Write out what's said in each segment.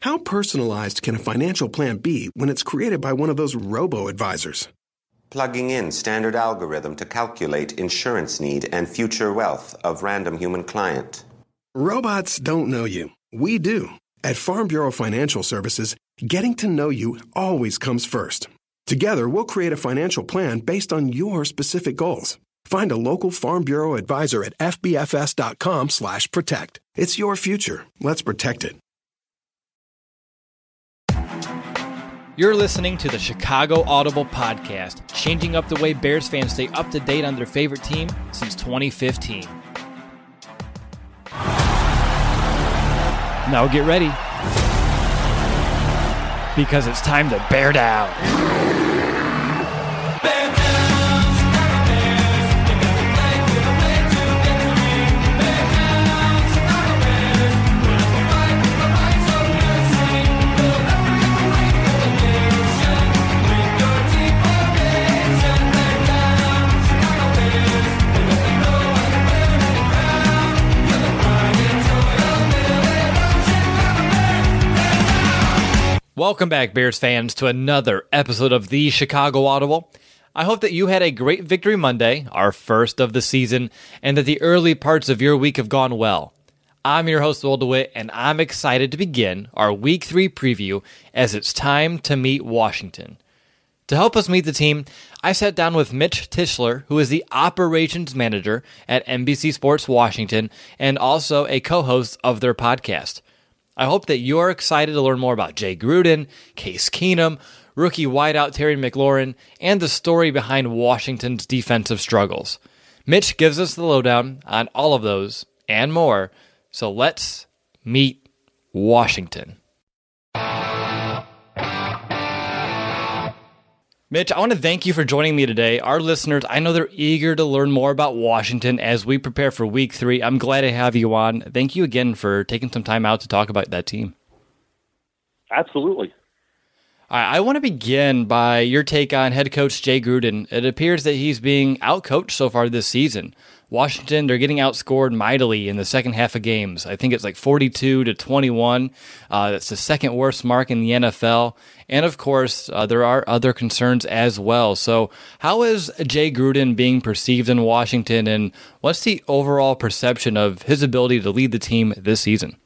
How personalized can a financial plan be when it's created by one of those robo-advisors? Plugging in standard algorithm to calculate insurance need and future wealth of random human client. Robots don't know you. We do. At Farm Bureau Financial Services, getting to know you always comes first. Together, we'll create a financial plan based on your specific goals. Find a local Farm Bureau advisor at fbfs.com/protect. It's your future. Let's protect it. You're listening to the Chicago Audible Podcast, changing up the way Bears fans stay up to date on their favorite team since 2015. Now get ready, because it's time to bear down. Welcome back, Bears fans, to another episode of the Chicago Audible. I hope that you had a great Victory Monday, our first of the season, and that the early parts of your week have gone well. I'm your host, Will DeWitt, and I'm excited to begin our Week 3 preview as it's time to meet Washington. To help us meet the team, I sat down with Mitch Tischler, who is the operations manager at NBC Sports Washington and also a co-host of their podcast. I hope that you're excited to learn more about Jay Gruden, Case Keenum, rookie wideout Terry McLaurin, and the story behind Washington's defensive struggles. Mitch gives us the lowdown on all of those and more, so let's meet Washington. Mitch, I want to thank you for joining me today. Our listeners, I know they're eager to learn more about Washington as we prepare for Week 3. I'm glad to have you on. Thank you again for taking some time out to talk about that team. Absolutely. I want to begin by your take on head coach Jay Gruden. It appears that he's being outcoached so far this season. Washington, they're getting outscored mightily in the second half of games. I think it's like 42-21. That's the second worst mark in the NFL. And of course, there are other concerns as well. So how is Jay Gruden being perceived in Washington, and what's the overall perception of his ability to lead the team this season?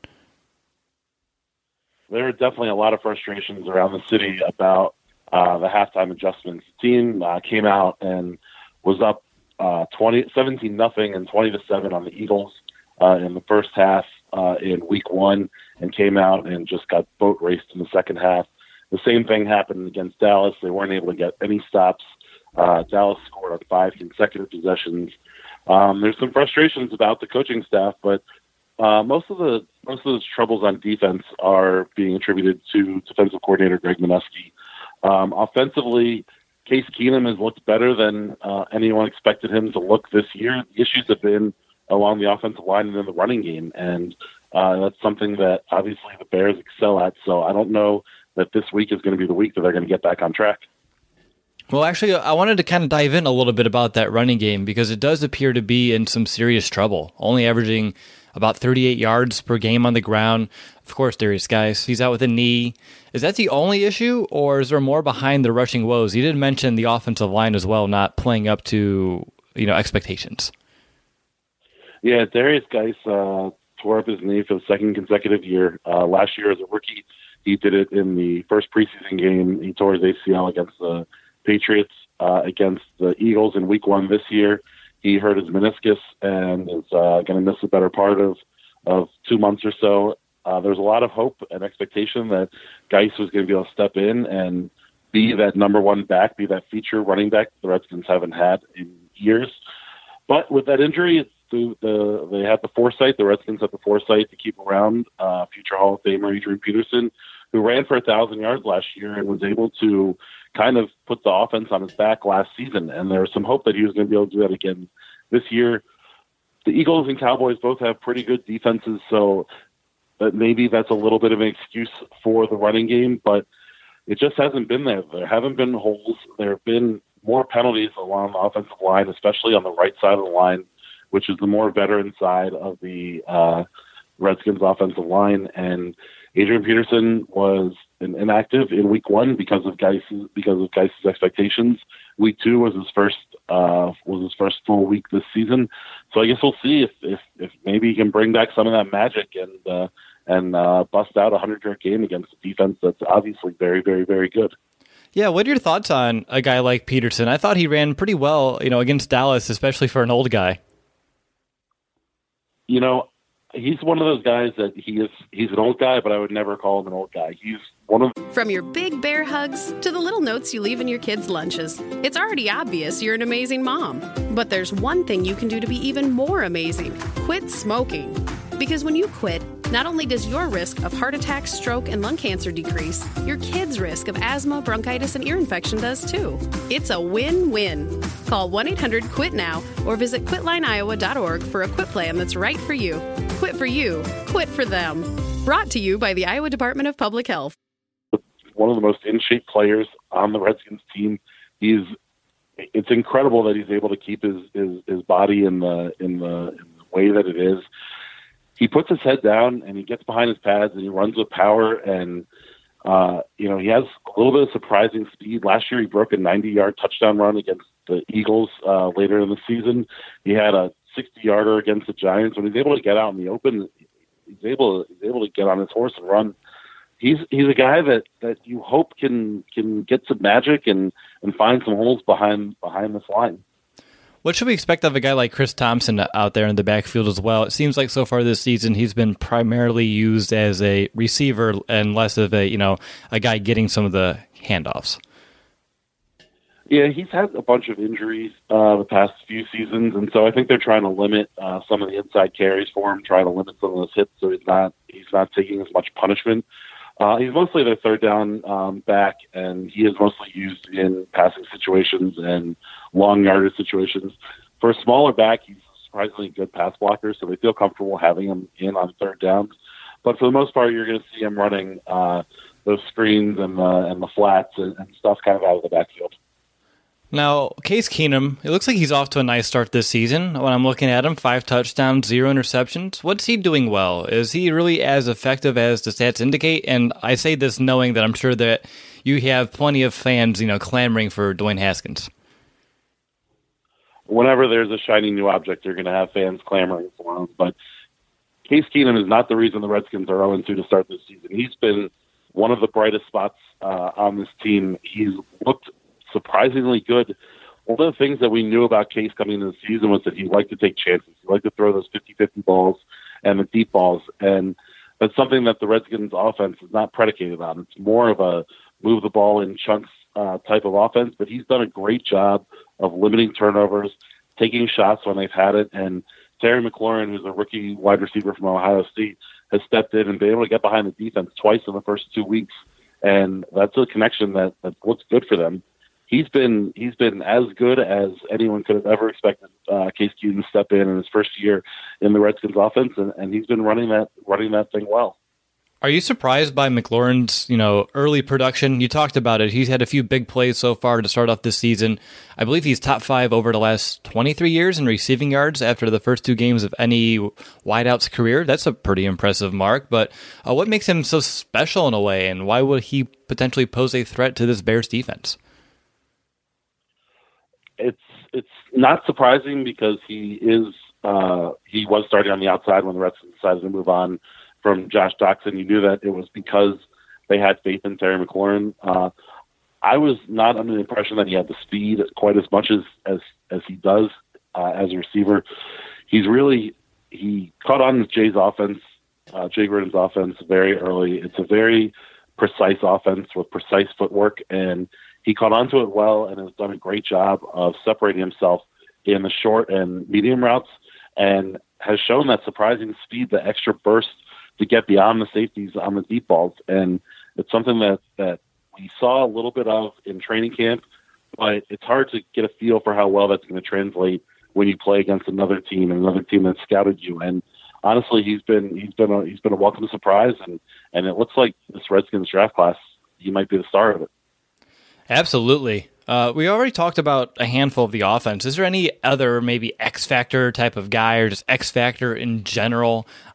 There are definitely a lot of frustrations around the city about the halftime adjustments. The team came out and was up 17-0 and 20-7 on the Eagles in the first half in Week 1, and came out and just got boat raced in the second half. The same thing happened against Dallas. They weren't able to get any stops. Dallas scored on 5 consecutive possessions. There's some frustrations about the coaching staff, but most of those troubles on defense are being attributed to defensive coordinator Greg Minuski. Offensively, Case Keenum has looked better than anyone expected him to look this year. The issues have been along the offensive line and in the running game, and that's something that obviously the Bears excel at. So I don't know that this week is going to be the week that they're going to get back on track. Well, actually, I wanted to kind of dive in a little bit about that running game, because it does appear to be in some serious trouble, only averaging about 38 yards per game on the ground. Of course, Darius Guice, he's out with a knee. Is that the only issue, or is there more behind the rushing woes? You did mention the offensive line as well, not playing up to expectations. Yeah, Darius Guice tore up his knee for the second consecutive year. Last year as a rookie, he did it in the first preseason game. He tore his ACL against the Patriots. Against the Eagles in Week 1 this year, he hurt his meniscus and is going to miss the better part of 2 months or so. There's a lot of hope and expectation that Guice was going to be able to step in and be that number one back, be that feature running back the Redskins haven't had in years. But with that injury, they had the foresight, the Redskins had the foresight to keep around future Hall of Famer Adrian Peterson, who ran for 1,000 yards last year and was able to kind of put the offense on his back last season. And there was some hope that he was going to be able to do that again this year. The Eagles and Cowboys both have pretty good defenses, so maybe that's a little bit of an excuse for the running game, but it just hasn't been there. There haven't been holes. There have been more penalties along the offensive line, especially on the right side of the line, which is the more veteran side of the Redskins offensive line. And Adrian Peterson was inactive in week 1 because of Geis's expectations. Week 2 was his first full week this season. So I guess we'll see if maybe he can bring back some of that magic and bust out a 100-yard game against a defense that's obviously very, very, very good. Yeah, what are your thoughts on a guy like Peterson? I thought he ran pretty well, against Dallas, especially for an old guy. He's one of those guys that he's an old guy, but I would never call him an old guy. He's one of... From your big bear hugs to the little notes you leave in your kids' lunches, it's already obvious you're an amazing mom. But there's one thing you can do to be even more amazing. Quit smoking. Because when you quit, not only does your risk of heart attack, stroke, and lung cancer decrease, your kids' risk of asthma, bronchitis, and ear infection does too. It's a win-win. Call 1-800-QUIT-NOW or visit quitlineiowa.org for a quit plan that's right for you. Quit for you. Quit for them. Brought to you by the Iowa Department of Public Health. One of the most in-shape players on the Redskins team. It's incredible that he's able to keep his body in the way that it is. He puts his head down and he gets behind his pads and he runs with power and he has a little bit of surprising speed. Last year he broke a 90-yard touchdown run against the Eagles later in the season. He had a 60-yarder against the Giants. When he's able to get out in the open, he's able to get on his horse and run. He's a guy that you hope can get some magic and find some holes behind this line. What should we expect of a guy like Chris Thompson out there in the backfield as well? It seems like so far this season he's been primarily used as a receiver and less of a guy getting some of the handoffs. Yeah, he's had a bunch of injuries the past few seasons, and so I think they're trying to limit some of the inside carries for him, trying to limit some of those hits so he's not taking as much punishment. He's mostly their third down back, and he is mostly used in passing situations and long yardage situations. For a smaller back, he's a surprisingly good pass blocker, so they feel comfortable having him in on third downs. But for the most part, you're going to see him running those screens and the flats and stuff kind of out of the backfield. Now, Case Keenum, it looks like he's off to a nice start this season. When I'm looking at him, 5 touchdowns, 0 interceptions. What's he doing well? Is he really as effective as the stats indicate? And I say this knowing that I'm sure that you have plenty of fans, clamoring for Dwayne Haskins. Whenever there's a shiny new object, you're going to have fans clamoring for him. But Case Keenum is not the reason the Redskins are 0-2 to start this season. He's been one of the brightest spots on this team. He's looked surprisingly good. One of the things that we knew about Case coming into the season was that he liked to take chances. He liked to throw those 50-50 balls and the deep balls. And that's something that the Redskins offense is not predicated on. It's more of a move the ball in chunks type of offense, but he's done a great job of limiting turnovers, taking shots when they've had it. And Terry McLaurin, who's a rookie wide receiver from Ohio State, has stepped in and been able to get behind the defense twice in the first 2 weeks. And that's a connection that looks good for them. He's been as good as anyone could have ever expected Case Keenum to step in his first year in the Redskins offense, and he's been running that thing well. Are you surprised by McLaurin's, early production? You talked about it. He's had a few big plays so far to start off this season. I believe he's top 5 over the last 23 years in receiving yards after the first 2 games of any wideout's career. That's a pretty impressive mark. But what makes him so special in a way, and why would he potentially pose a threat to this Bears defense? It's not surprising because he was starting on the outside when the Redskins decided to move on from Josh Doctson. You knew that it was because they had faith in Terry McLaurin. I was not under the impression that he had the speed quite as much as he does as a receiver. He caught on with Jay's offense, Jay Gruden's offense very early. It's a very precise offense with precise footwork, and he caught on to it well and has done a great job of separating himself in the short and medium routes and has shown that surprising speed, the extra burst to get beyond the safeties on the deep balls. And it's something that we saw a little bit of in training camp, but it's hard to get a feel for how well that's going to translate when you play against another team that scouted you. And honestly, he's been a welcome surprise, and it looks like this Redskins draft class, he might be the star of it. Absolutely. We already talked about a handful of the offense. Is there any other maybe X factor type of guy or just X factor in general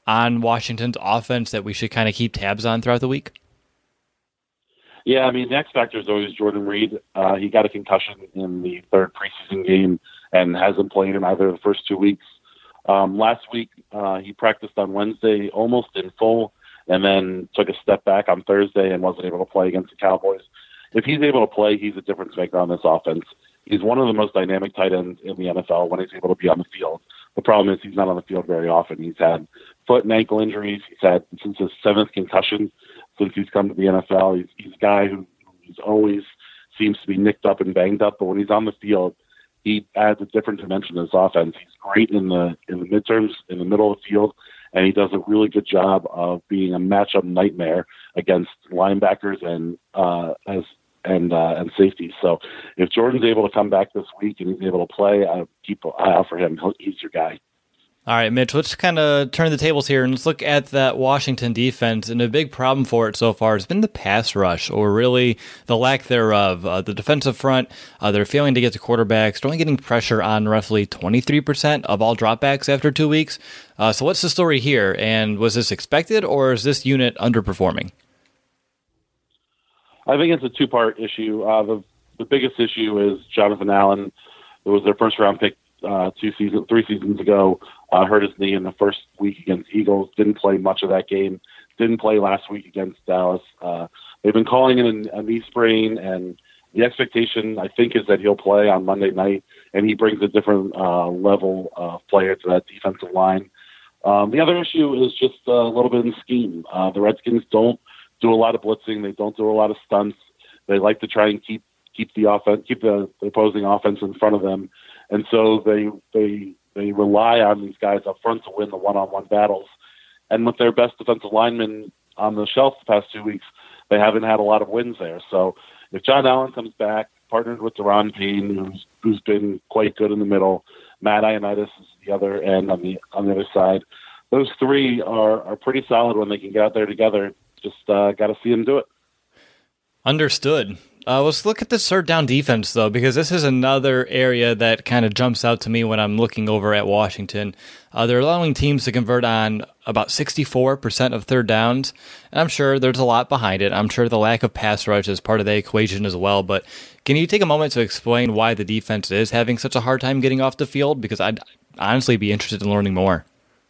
on Washington's offense that we should kind of keep tabs on throughout the week? Yeah, I mean, the X factor is always Jordan Reed. He got a concussion in the third preseason game and hasn't played in either of the first 2 weeks. Last week, he practiced on Wednesday almost in full and then took a step back on Thursday and wasn't able to play against the Cowboys. If he's able to play, he's a difference maker on this offense. He's one of the most dynamic tight ends in the NFL when he's able to be on the field. The problem is he's not on the field very often. He's had foot and ankle injuries. He's had since his 7th concussion since he's come to the NFL. He's a guy who's always seems to be nicked up and banged up, but when he's on the field, he adds a different dimension to his offense. He's great in the midterms, in the middle of the field, and he does a really good job of being a matchup nightmare against linebackers and safety. So if Jordan's able to come back this week and he's able to play, I keep an eye out for him. He's your guy. All right, Mitch, let's kind of turn the tables here and let's look at that Washington defense. And a big problem for it so far has been the pass rush, or really the lack thereof. The defensive front, they're failing to get to quarterbacks. They're only getting pressure on roughly 23% of all dropbacks after 2 weeks. So what's the story here? And was this expected, or is this unit underperforming? I think it's a two-part issue. The biggest issue is Jonathan Allen. It was their first-round pick 3 seasons ago. Hurt his knee in the first week against Eagles. Didn't play much of that game. Didn't play last week against Dallas. They've been calling it a knee sprain, and the expectation, I think, is that he'll play on Monday night, and he brings a different level of player to that defensive line. The other issue is just a little bit in scheme. The Redskins don't do a lot of blitzing. They don't do a lot of stunts. They like to try and keep the opposing offense in front of them, and so they rely on these guys up front to win the one-on-one battles. And with their best defensive linemen on the shelf the past 2 weeks, they haven't had a lot of wins there. So if John Allen comes back, partnered with Deron Payne, who's been quite good in the middle, Matt Ioannidis is the other end on the other side. Those three are pretty solid when they can get out there together. Just got to see them do it. Understood. Let's look at the third down defense, though, because this is another area that kind of jumps out to me when I'm looking over at Washington. They're allowing teams to convert on about 64% of third downs, and I'm sure there's a lot behind it. I'm sure the lack of pass rush is part of the equation as well, but can you take a moment to explain why the defense is having such a hard time getting off the field? Because I'd honestly be interested in learning more.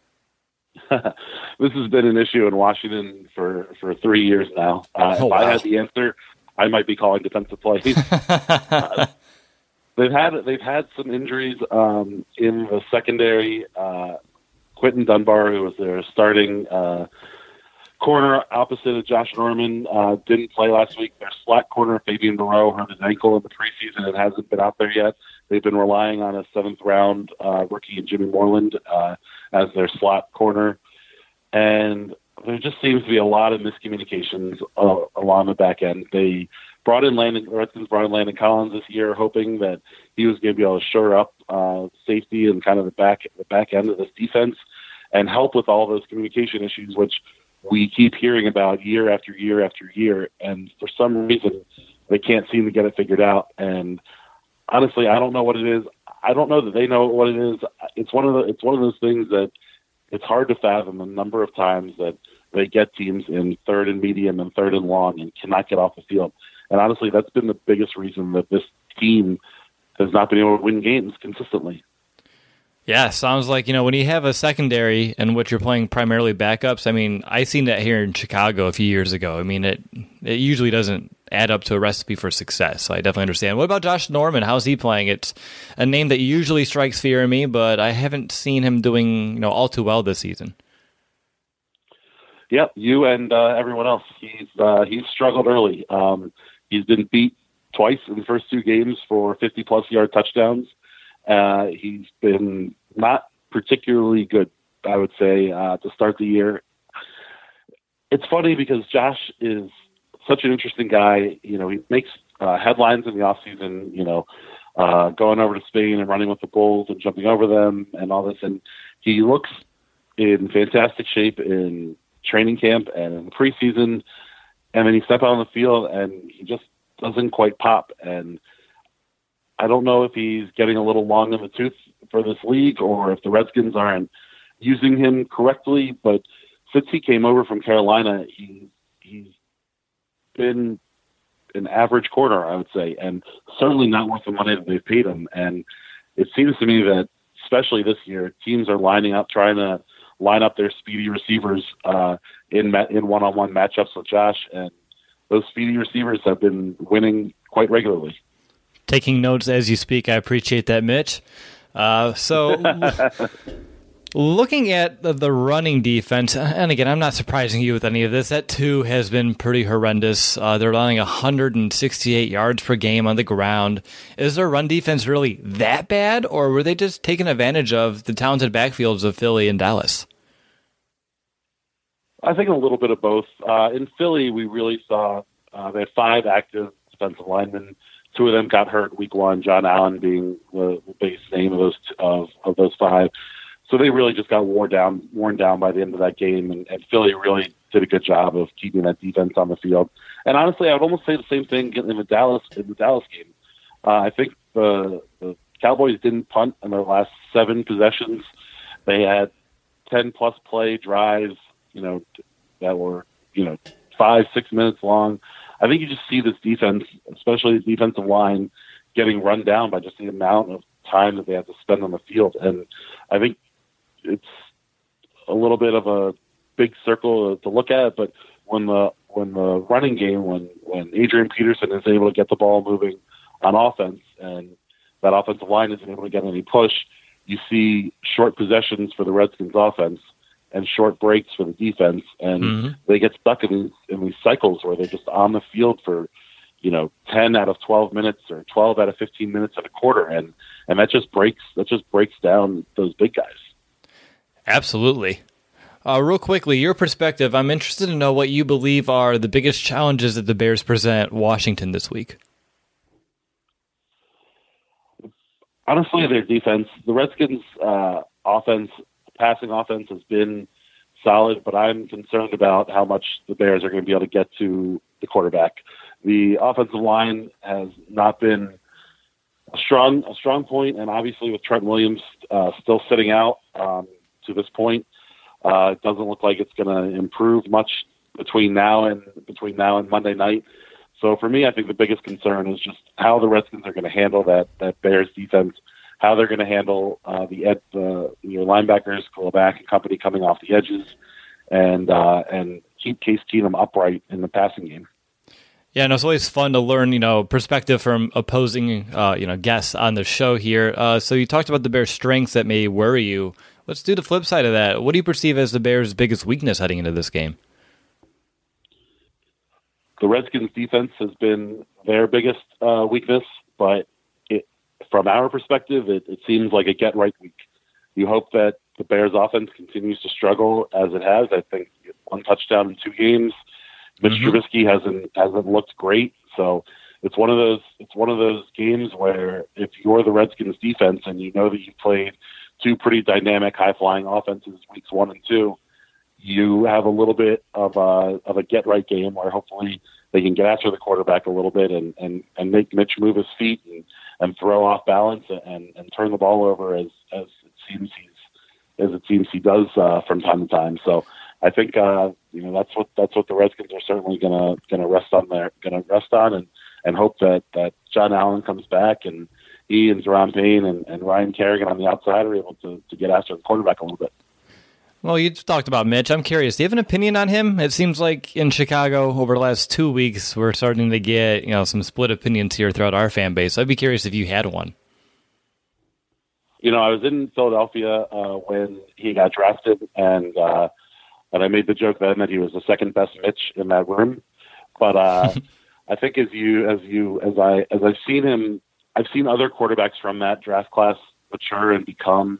This has been an issue in Washington for 3 years now. If I had the answer, I might be calling defensive plays. They've had some injuries in the secondary. Quentin Dunbar, who was their starting corner opposite of Josh Norman, didn't play last week. Their slot corner, Fabian Moreau, hurt his ankle in the preseason and hasn't been out there yet. They've been relying on a 7th-round rookie, Jimmy Moreland, as their slot corner. And there just seems to be a lot of miscommunications along the back end. The Redskins brought in Landon Collins this year, hoping that he was going to be able to shore up safety and kind of the back end of this defense and help with all those communication issues, which we keep hearing about year after year after year. And for some reason, they can't seem to get it figured out. And honestly, I don't know what it is. I don't know that they know what it is. It's one of those things that it's hard to fathom the number of times that they get teams in 3rd and medium and 3rd and long and cannot get off the field. And honestly, that's been the biggest reason that this team has not been able to win games consistently. Yeah, sounds like, when you have a secondary in which you're playing primarily backups, I mean, I seen that here in Chicago a few years ago. I mean, it usually doesn't add up to a recipe for success. So I definitely understand. What about Josh Norman? How's he playing? It's a name that usually strikes fear in me, but I haven't seen him doing, all too well this season. Yep, you and everyone else. He's struggled early. He's been beat twice in the first 2 games for 50-plus yard touchdowns. He's been not particularly good, I would say, to start the year. It's funny because Josh is such an interesting guy. He makes headlines in the offseason, going over to Spain and running with the Bulls and jumping over them and all this. And he looks in fantastic shape in training camp and in the preseason. And then he steps out on the field and he just doesn't quite pop. And I don't know if he's getting a little long in the tooth for this league or if the Redskins aren't using him correctly. But since he came over from Carolina, he's been an average corner, I would say, and certainly not worth the money that they've paid him. And it seems to me that, especially this year, teams are trying to line up their speedy receivers in one-on-one matchups with Josh, and those speedy receivers have been winning quite regularly. Taking notes as you speak, I appreciate that, Mitch. Looking at the running defense, and again, I'm not surprising you with any of this, that too has been pretty horrendous. They're allowing 168 yards per game on the ground. Is their run defense really that bad, or were they just taking advantage of the talented backfields of Philly and Dallas? I think a little bit of both. In Philly, we really saw they had 5 active defensive linemen. 2 of them got hurt week 1, John Allen being the base name of those 5. So they really just got worn down by the end of that game, and Philly really did a good job of keeping that defense on the field. And honestly, I would almost say the same thing in the Dallas game. I think the Cowboys didn't punt in their last 7 possessions. They had 10-plus play drives, that were 5-6 minutes long. I think you just see this defense, especially the defensive line, getting run down by just the amount of time that they have to spend on the field. And I think it's a little bit of a big circle to look at, but when the running game, when Adrian Peterson is able to get the ball moving on offense and that offensive line isn't able to get any push, you see short possessions for the Redskins offense and short breaks for the defense, and they get stuck in these cycles where they're just on the field for 10 out of 12 minutes or 12 out of 15 minutes at a quarter, and that just breaks down those big guys. Absolutely. Real quickly, your perspective, I'm interested to know what you believe are the biggest challenges that the Bears present Washington this week. Honestly, their defense. The Redskins' passing offense has been solid, but I'm concerned about how much the Bears are going to be able to get to the quarterback. The offensive line has not been a strong point, and obviously with Trent Williams still sitting out to this point, it doesn't look like it's going to improve much between now and Monday night. So for me, I think the biggest concern is just how the Redskins are going to handle that Bears defense, how they're going to handle your linebackers, Koloback and company coming off the edges, and keep Case Keenum upright in the passing game. Yeah, and it's always fun to learn, perspective from opposing, guests on the show here. So you talked about the Bears' strengths that may worry you. Let's do the flip side of that. What do you perceive as the Bears' biggest weakness heading into this game? The Redskins' defense has been their biggest weakness, but from our perspective, it seems like a get-right week. You hope that the Bears' offense continues to struggle as it has. I think 1 touchdown in 2 games. Mitch Trubisky hasn't looked great, so it's one of those games where if you're the Redskins' defense and you know that you've played 2 pretty dynamic, high-flying offenses weeks 1 and 2, you have a little bit of a get-right game where hopefully they can get after the quarterback a little bit and make Mitch move his feet and throw off balance and turn the ball over as it seems he does from time to time. So I think that's what the Redskins are certainly gonna rest on and hope that John Allen comes back and he and Jerron Payne and Ryan Kerrigan on the outside are able to get after the quarterback a little bit. Well, you talked about Mitch. I'm curious. Do you have an opinion on him? It seems like in Chicago over the last 2 weeks, we're starting to get some split opinions here throughout our fan base. So I'd be curious if you had one. I was in Philadelphia when he got drafted, and I made the joke then that he was the second best Mitch in that room. But I think as I've seen him, I've seen other quarterbacks from that draft class mature and become,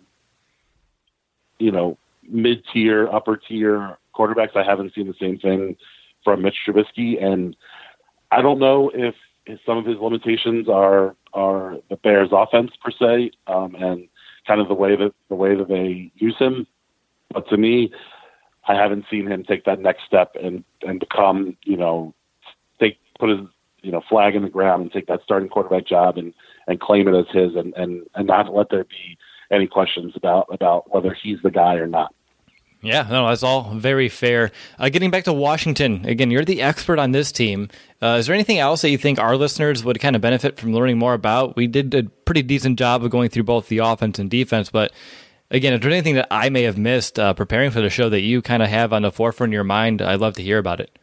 mid-tier, upper-tier quarterbacks. I haven't seen the same thing from Mitch Trubisky, and I don't know if some of his limitations are the Bears' offense per se, and kind of the way that they use him. But to me, I haven't seen him take that next step and become, put his flag in the ground and take that starting quarterback job and claim it as his and not let there be any questions about whether he's the guy or not. Yeah, no, that's all very fair. Getting back to Washington, again, you're the expert on this team. Is there anything else that you think our listeners would kind of benefit from learning more about? We did a pretty decent job of going through both the offense and defense, but again, if there's anything that I may have missed preparing for the show that you kind of have on the forefront of your mind, I'd love to hear about it.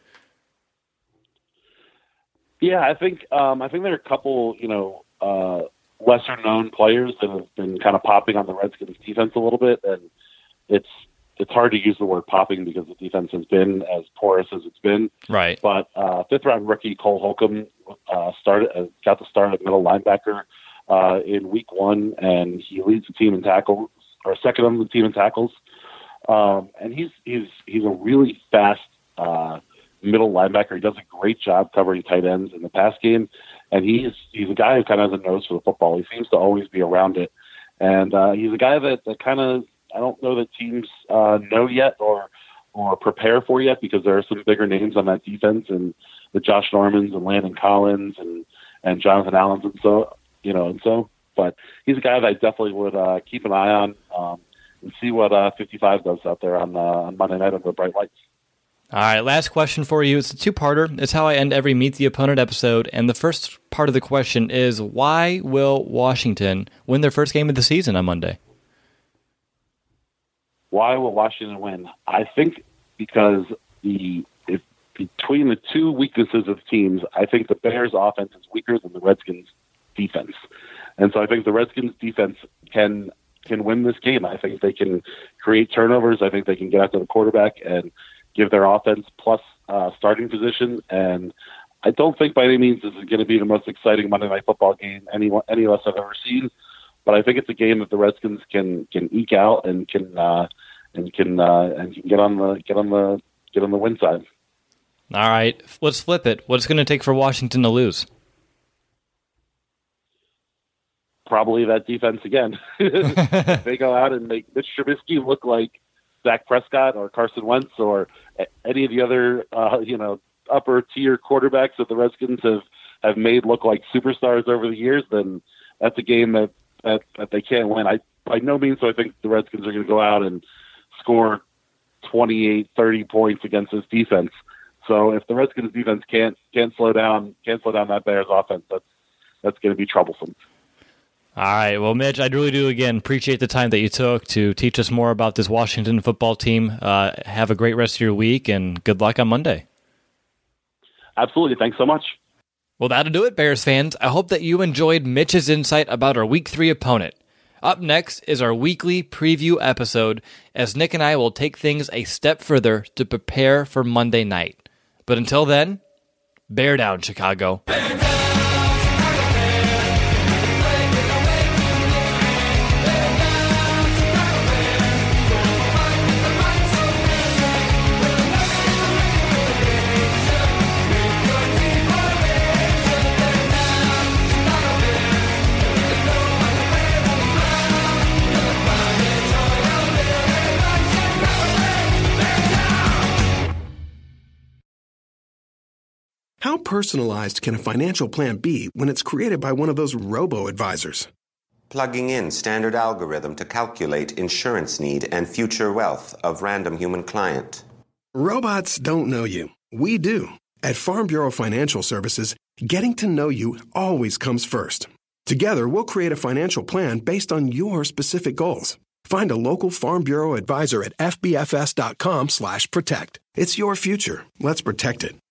Yeah, I think there are a couple, lesser known players that have been kind of popping on the Redskins defense a little bit, and it's hard to use the word popping because the defense has been as porous as it's been. Right. But fifth round rookie Cole Holcomb got the start at middle linebacker in week 1, and he leads the team in tackles, or second on the team in tackles. And he's a really fast middle linebacker. He does a great job covering tight ends in the pass game, and he's a guy who kind of has a nose for the football. He seems to always be around it, and he's a guy that kind of, I don't know that teams know yet or prepare for yet, because there are some bigger names on that defense, and the Josh Normans and Landon Collins and Jonathan Allens and so. But he's a guy that I definitely would keep an eye on and see what 55 does out there on Monday night under the bright lights. All right, last question for you. It's a two-parter. It's how I end every Meet the Opponent episode. And the first part of the question is, why will Washington win their first game of the season on Monday? Why will Washington win? I think because between the two weaknesses of teams, I think the Bears' offense is weaker than the Redskins' defense. And so I think the Redskins' defense can win this game. I think they can create turnovers. I think they can get after the quarterback and give their offense plus starting position. And I don't think by any means this is going to be the most exciting Monday Night Football game any of us have ever seen. But I think it's a game that the Redskins can eke out and can get on the win side. All right, let's flip it. What's going to take for Washington to lose? Probably that defense again. They go out and make Mitch Trubisky look like Dak Prescott or Carson Wentz or any of the other upper tier quarterbacks that the Redskins have made look like superstars over the years. Then that's a game that they can't win. By no means do I think the Redskins are going to go out and score 28, 30 points against this defense. So if the Redskins defense can't slow down that Bears offense, that's going to be troublesome. All right. Well, Mitch, I really do, again, appreciate the time that you took to teach us more about this Washington football team. Have a great rest of your week, and good luck on Monday. Absolutely. Thanks so much. Well, that'll do it, Bears fans. I hope that you enjoyed Mitch's insight about our Week 3 opponent. Up next is our weekly preview episode, as Nick and I will take things a step further to prepare for Monday night. But until then, bear down, Chicago. How personalized can a financial plan be when it's created by one of those robo-advisors? Plugging in standard algorithm to calculate insurance need and future wealth of random human client. Robots don't know you. We do. At Farm Bureau Financial Services, getting to know you always comes first. Together, we'll create a financial plan based on your specific goals. Find a local Farm Bureau advisor at fbfs.com/protect. It's your future. Let's protect it.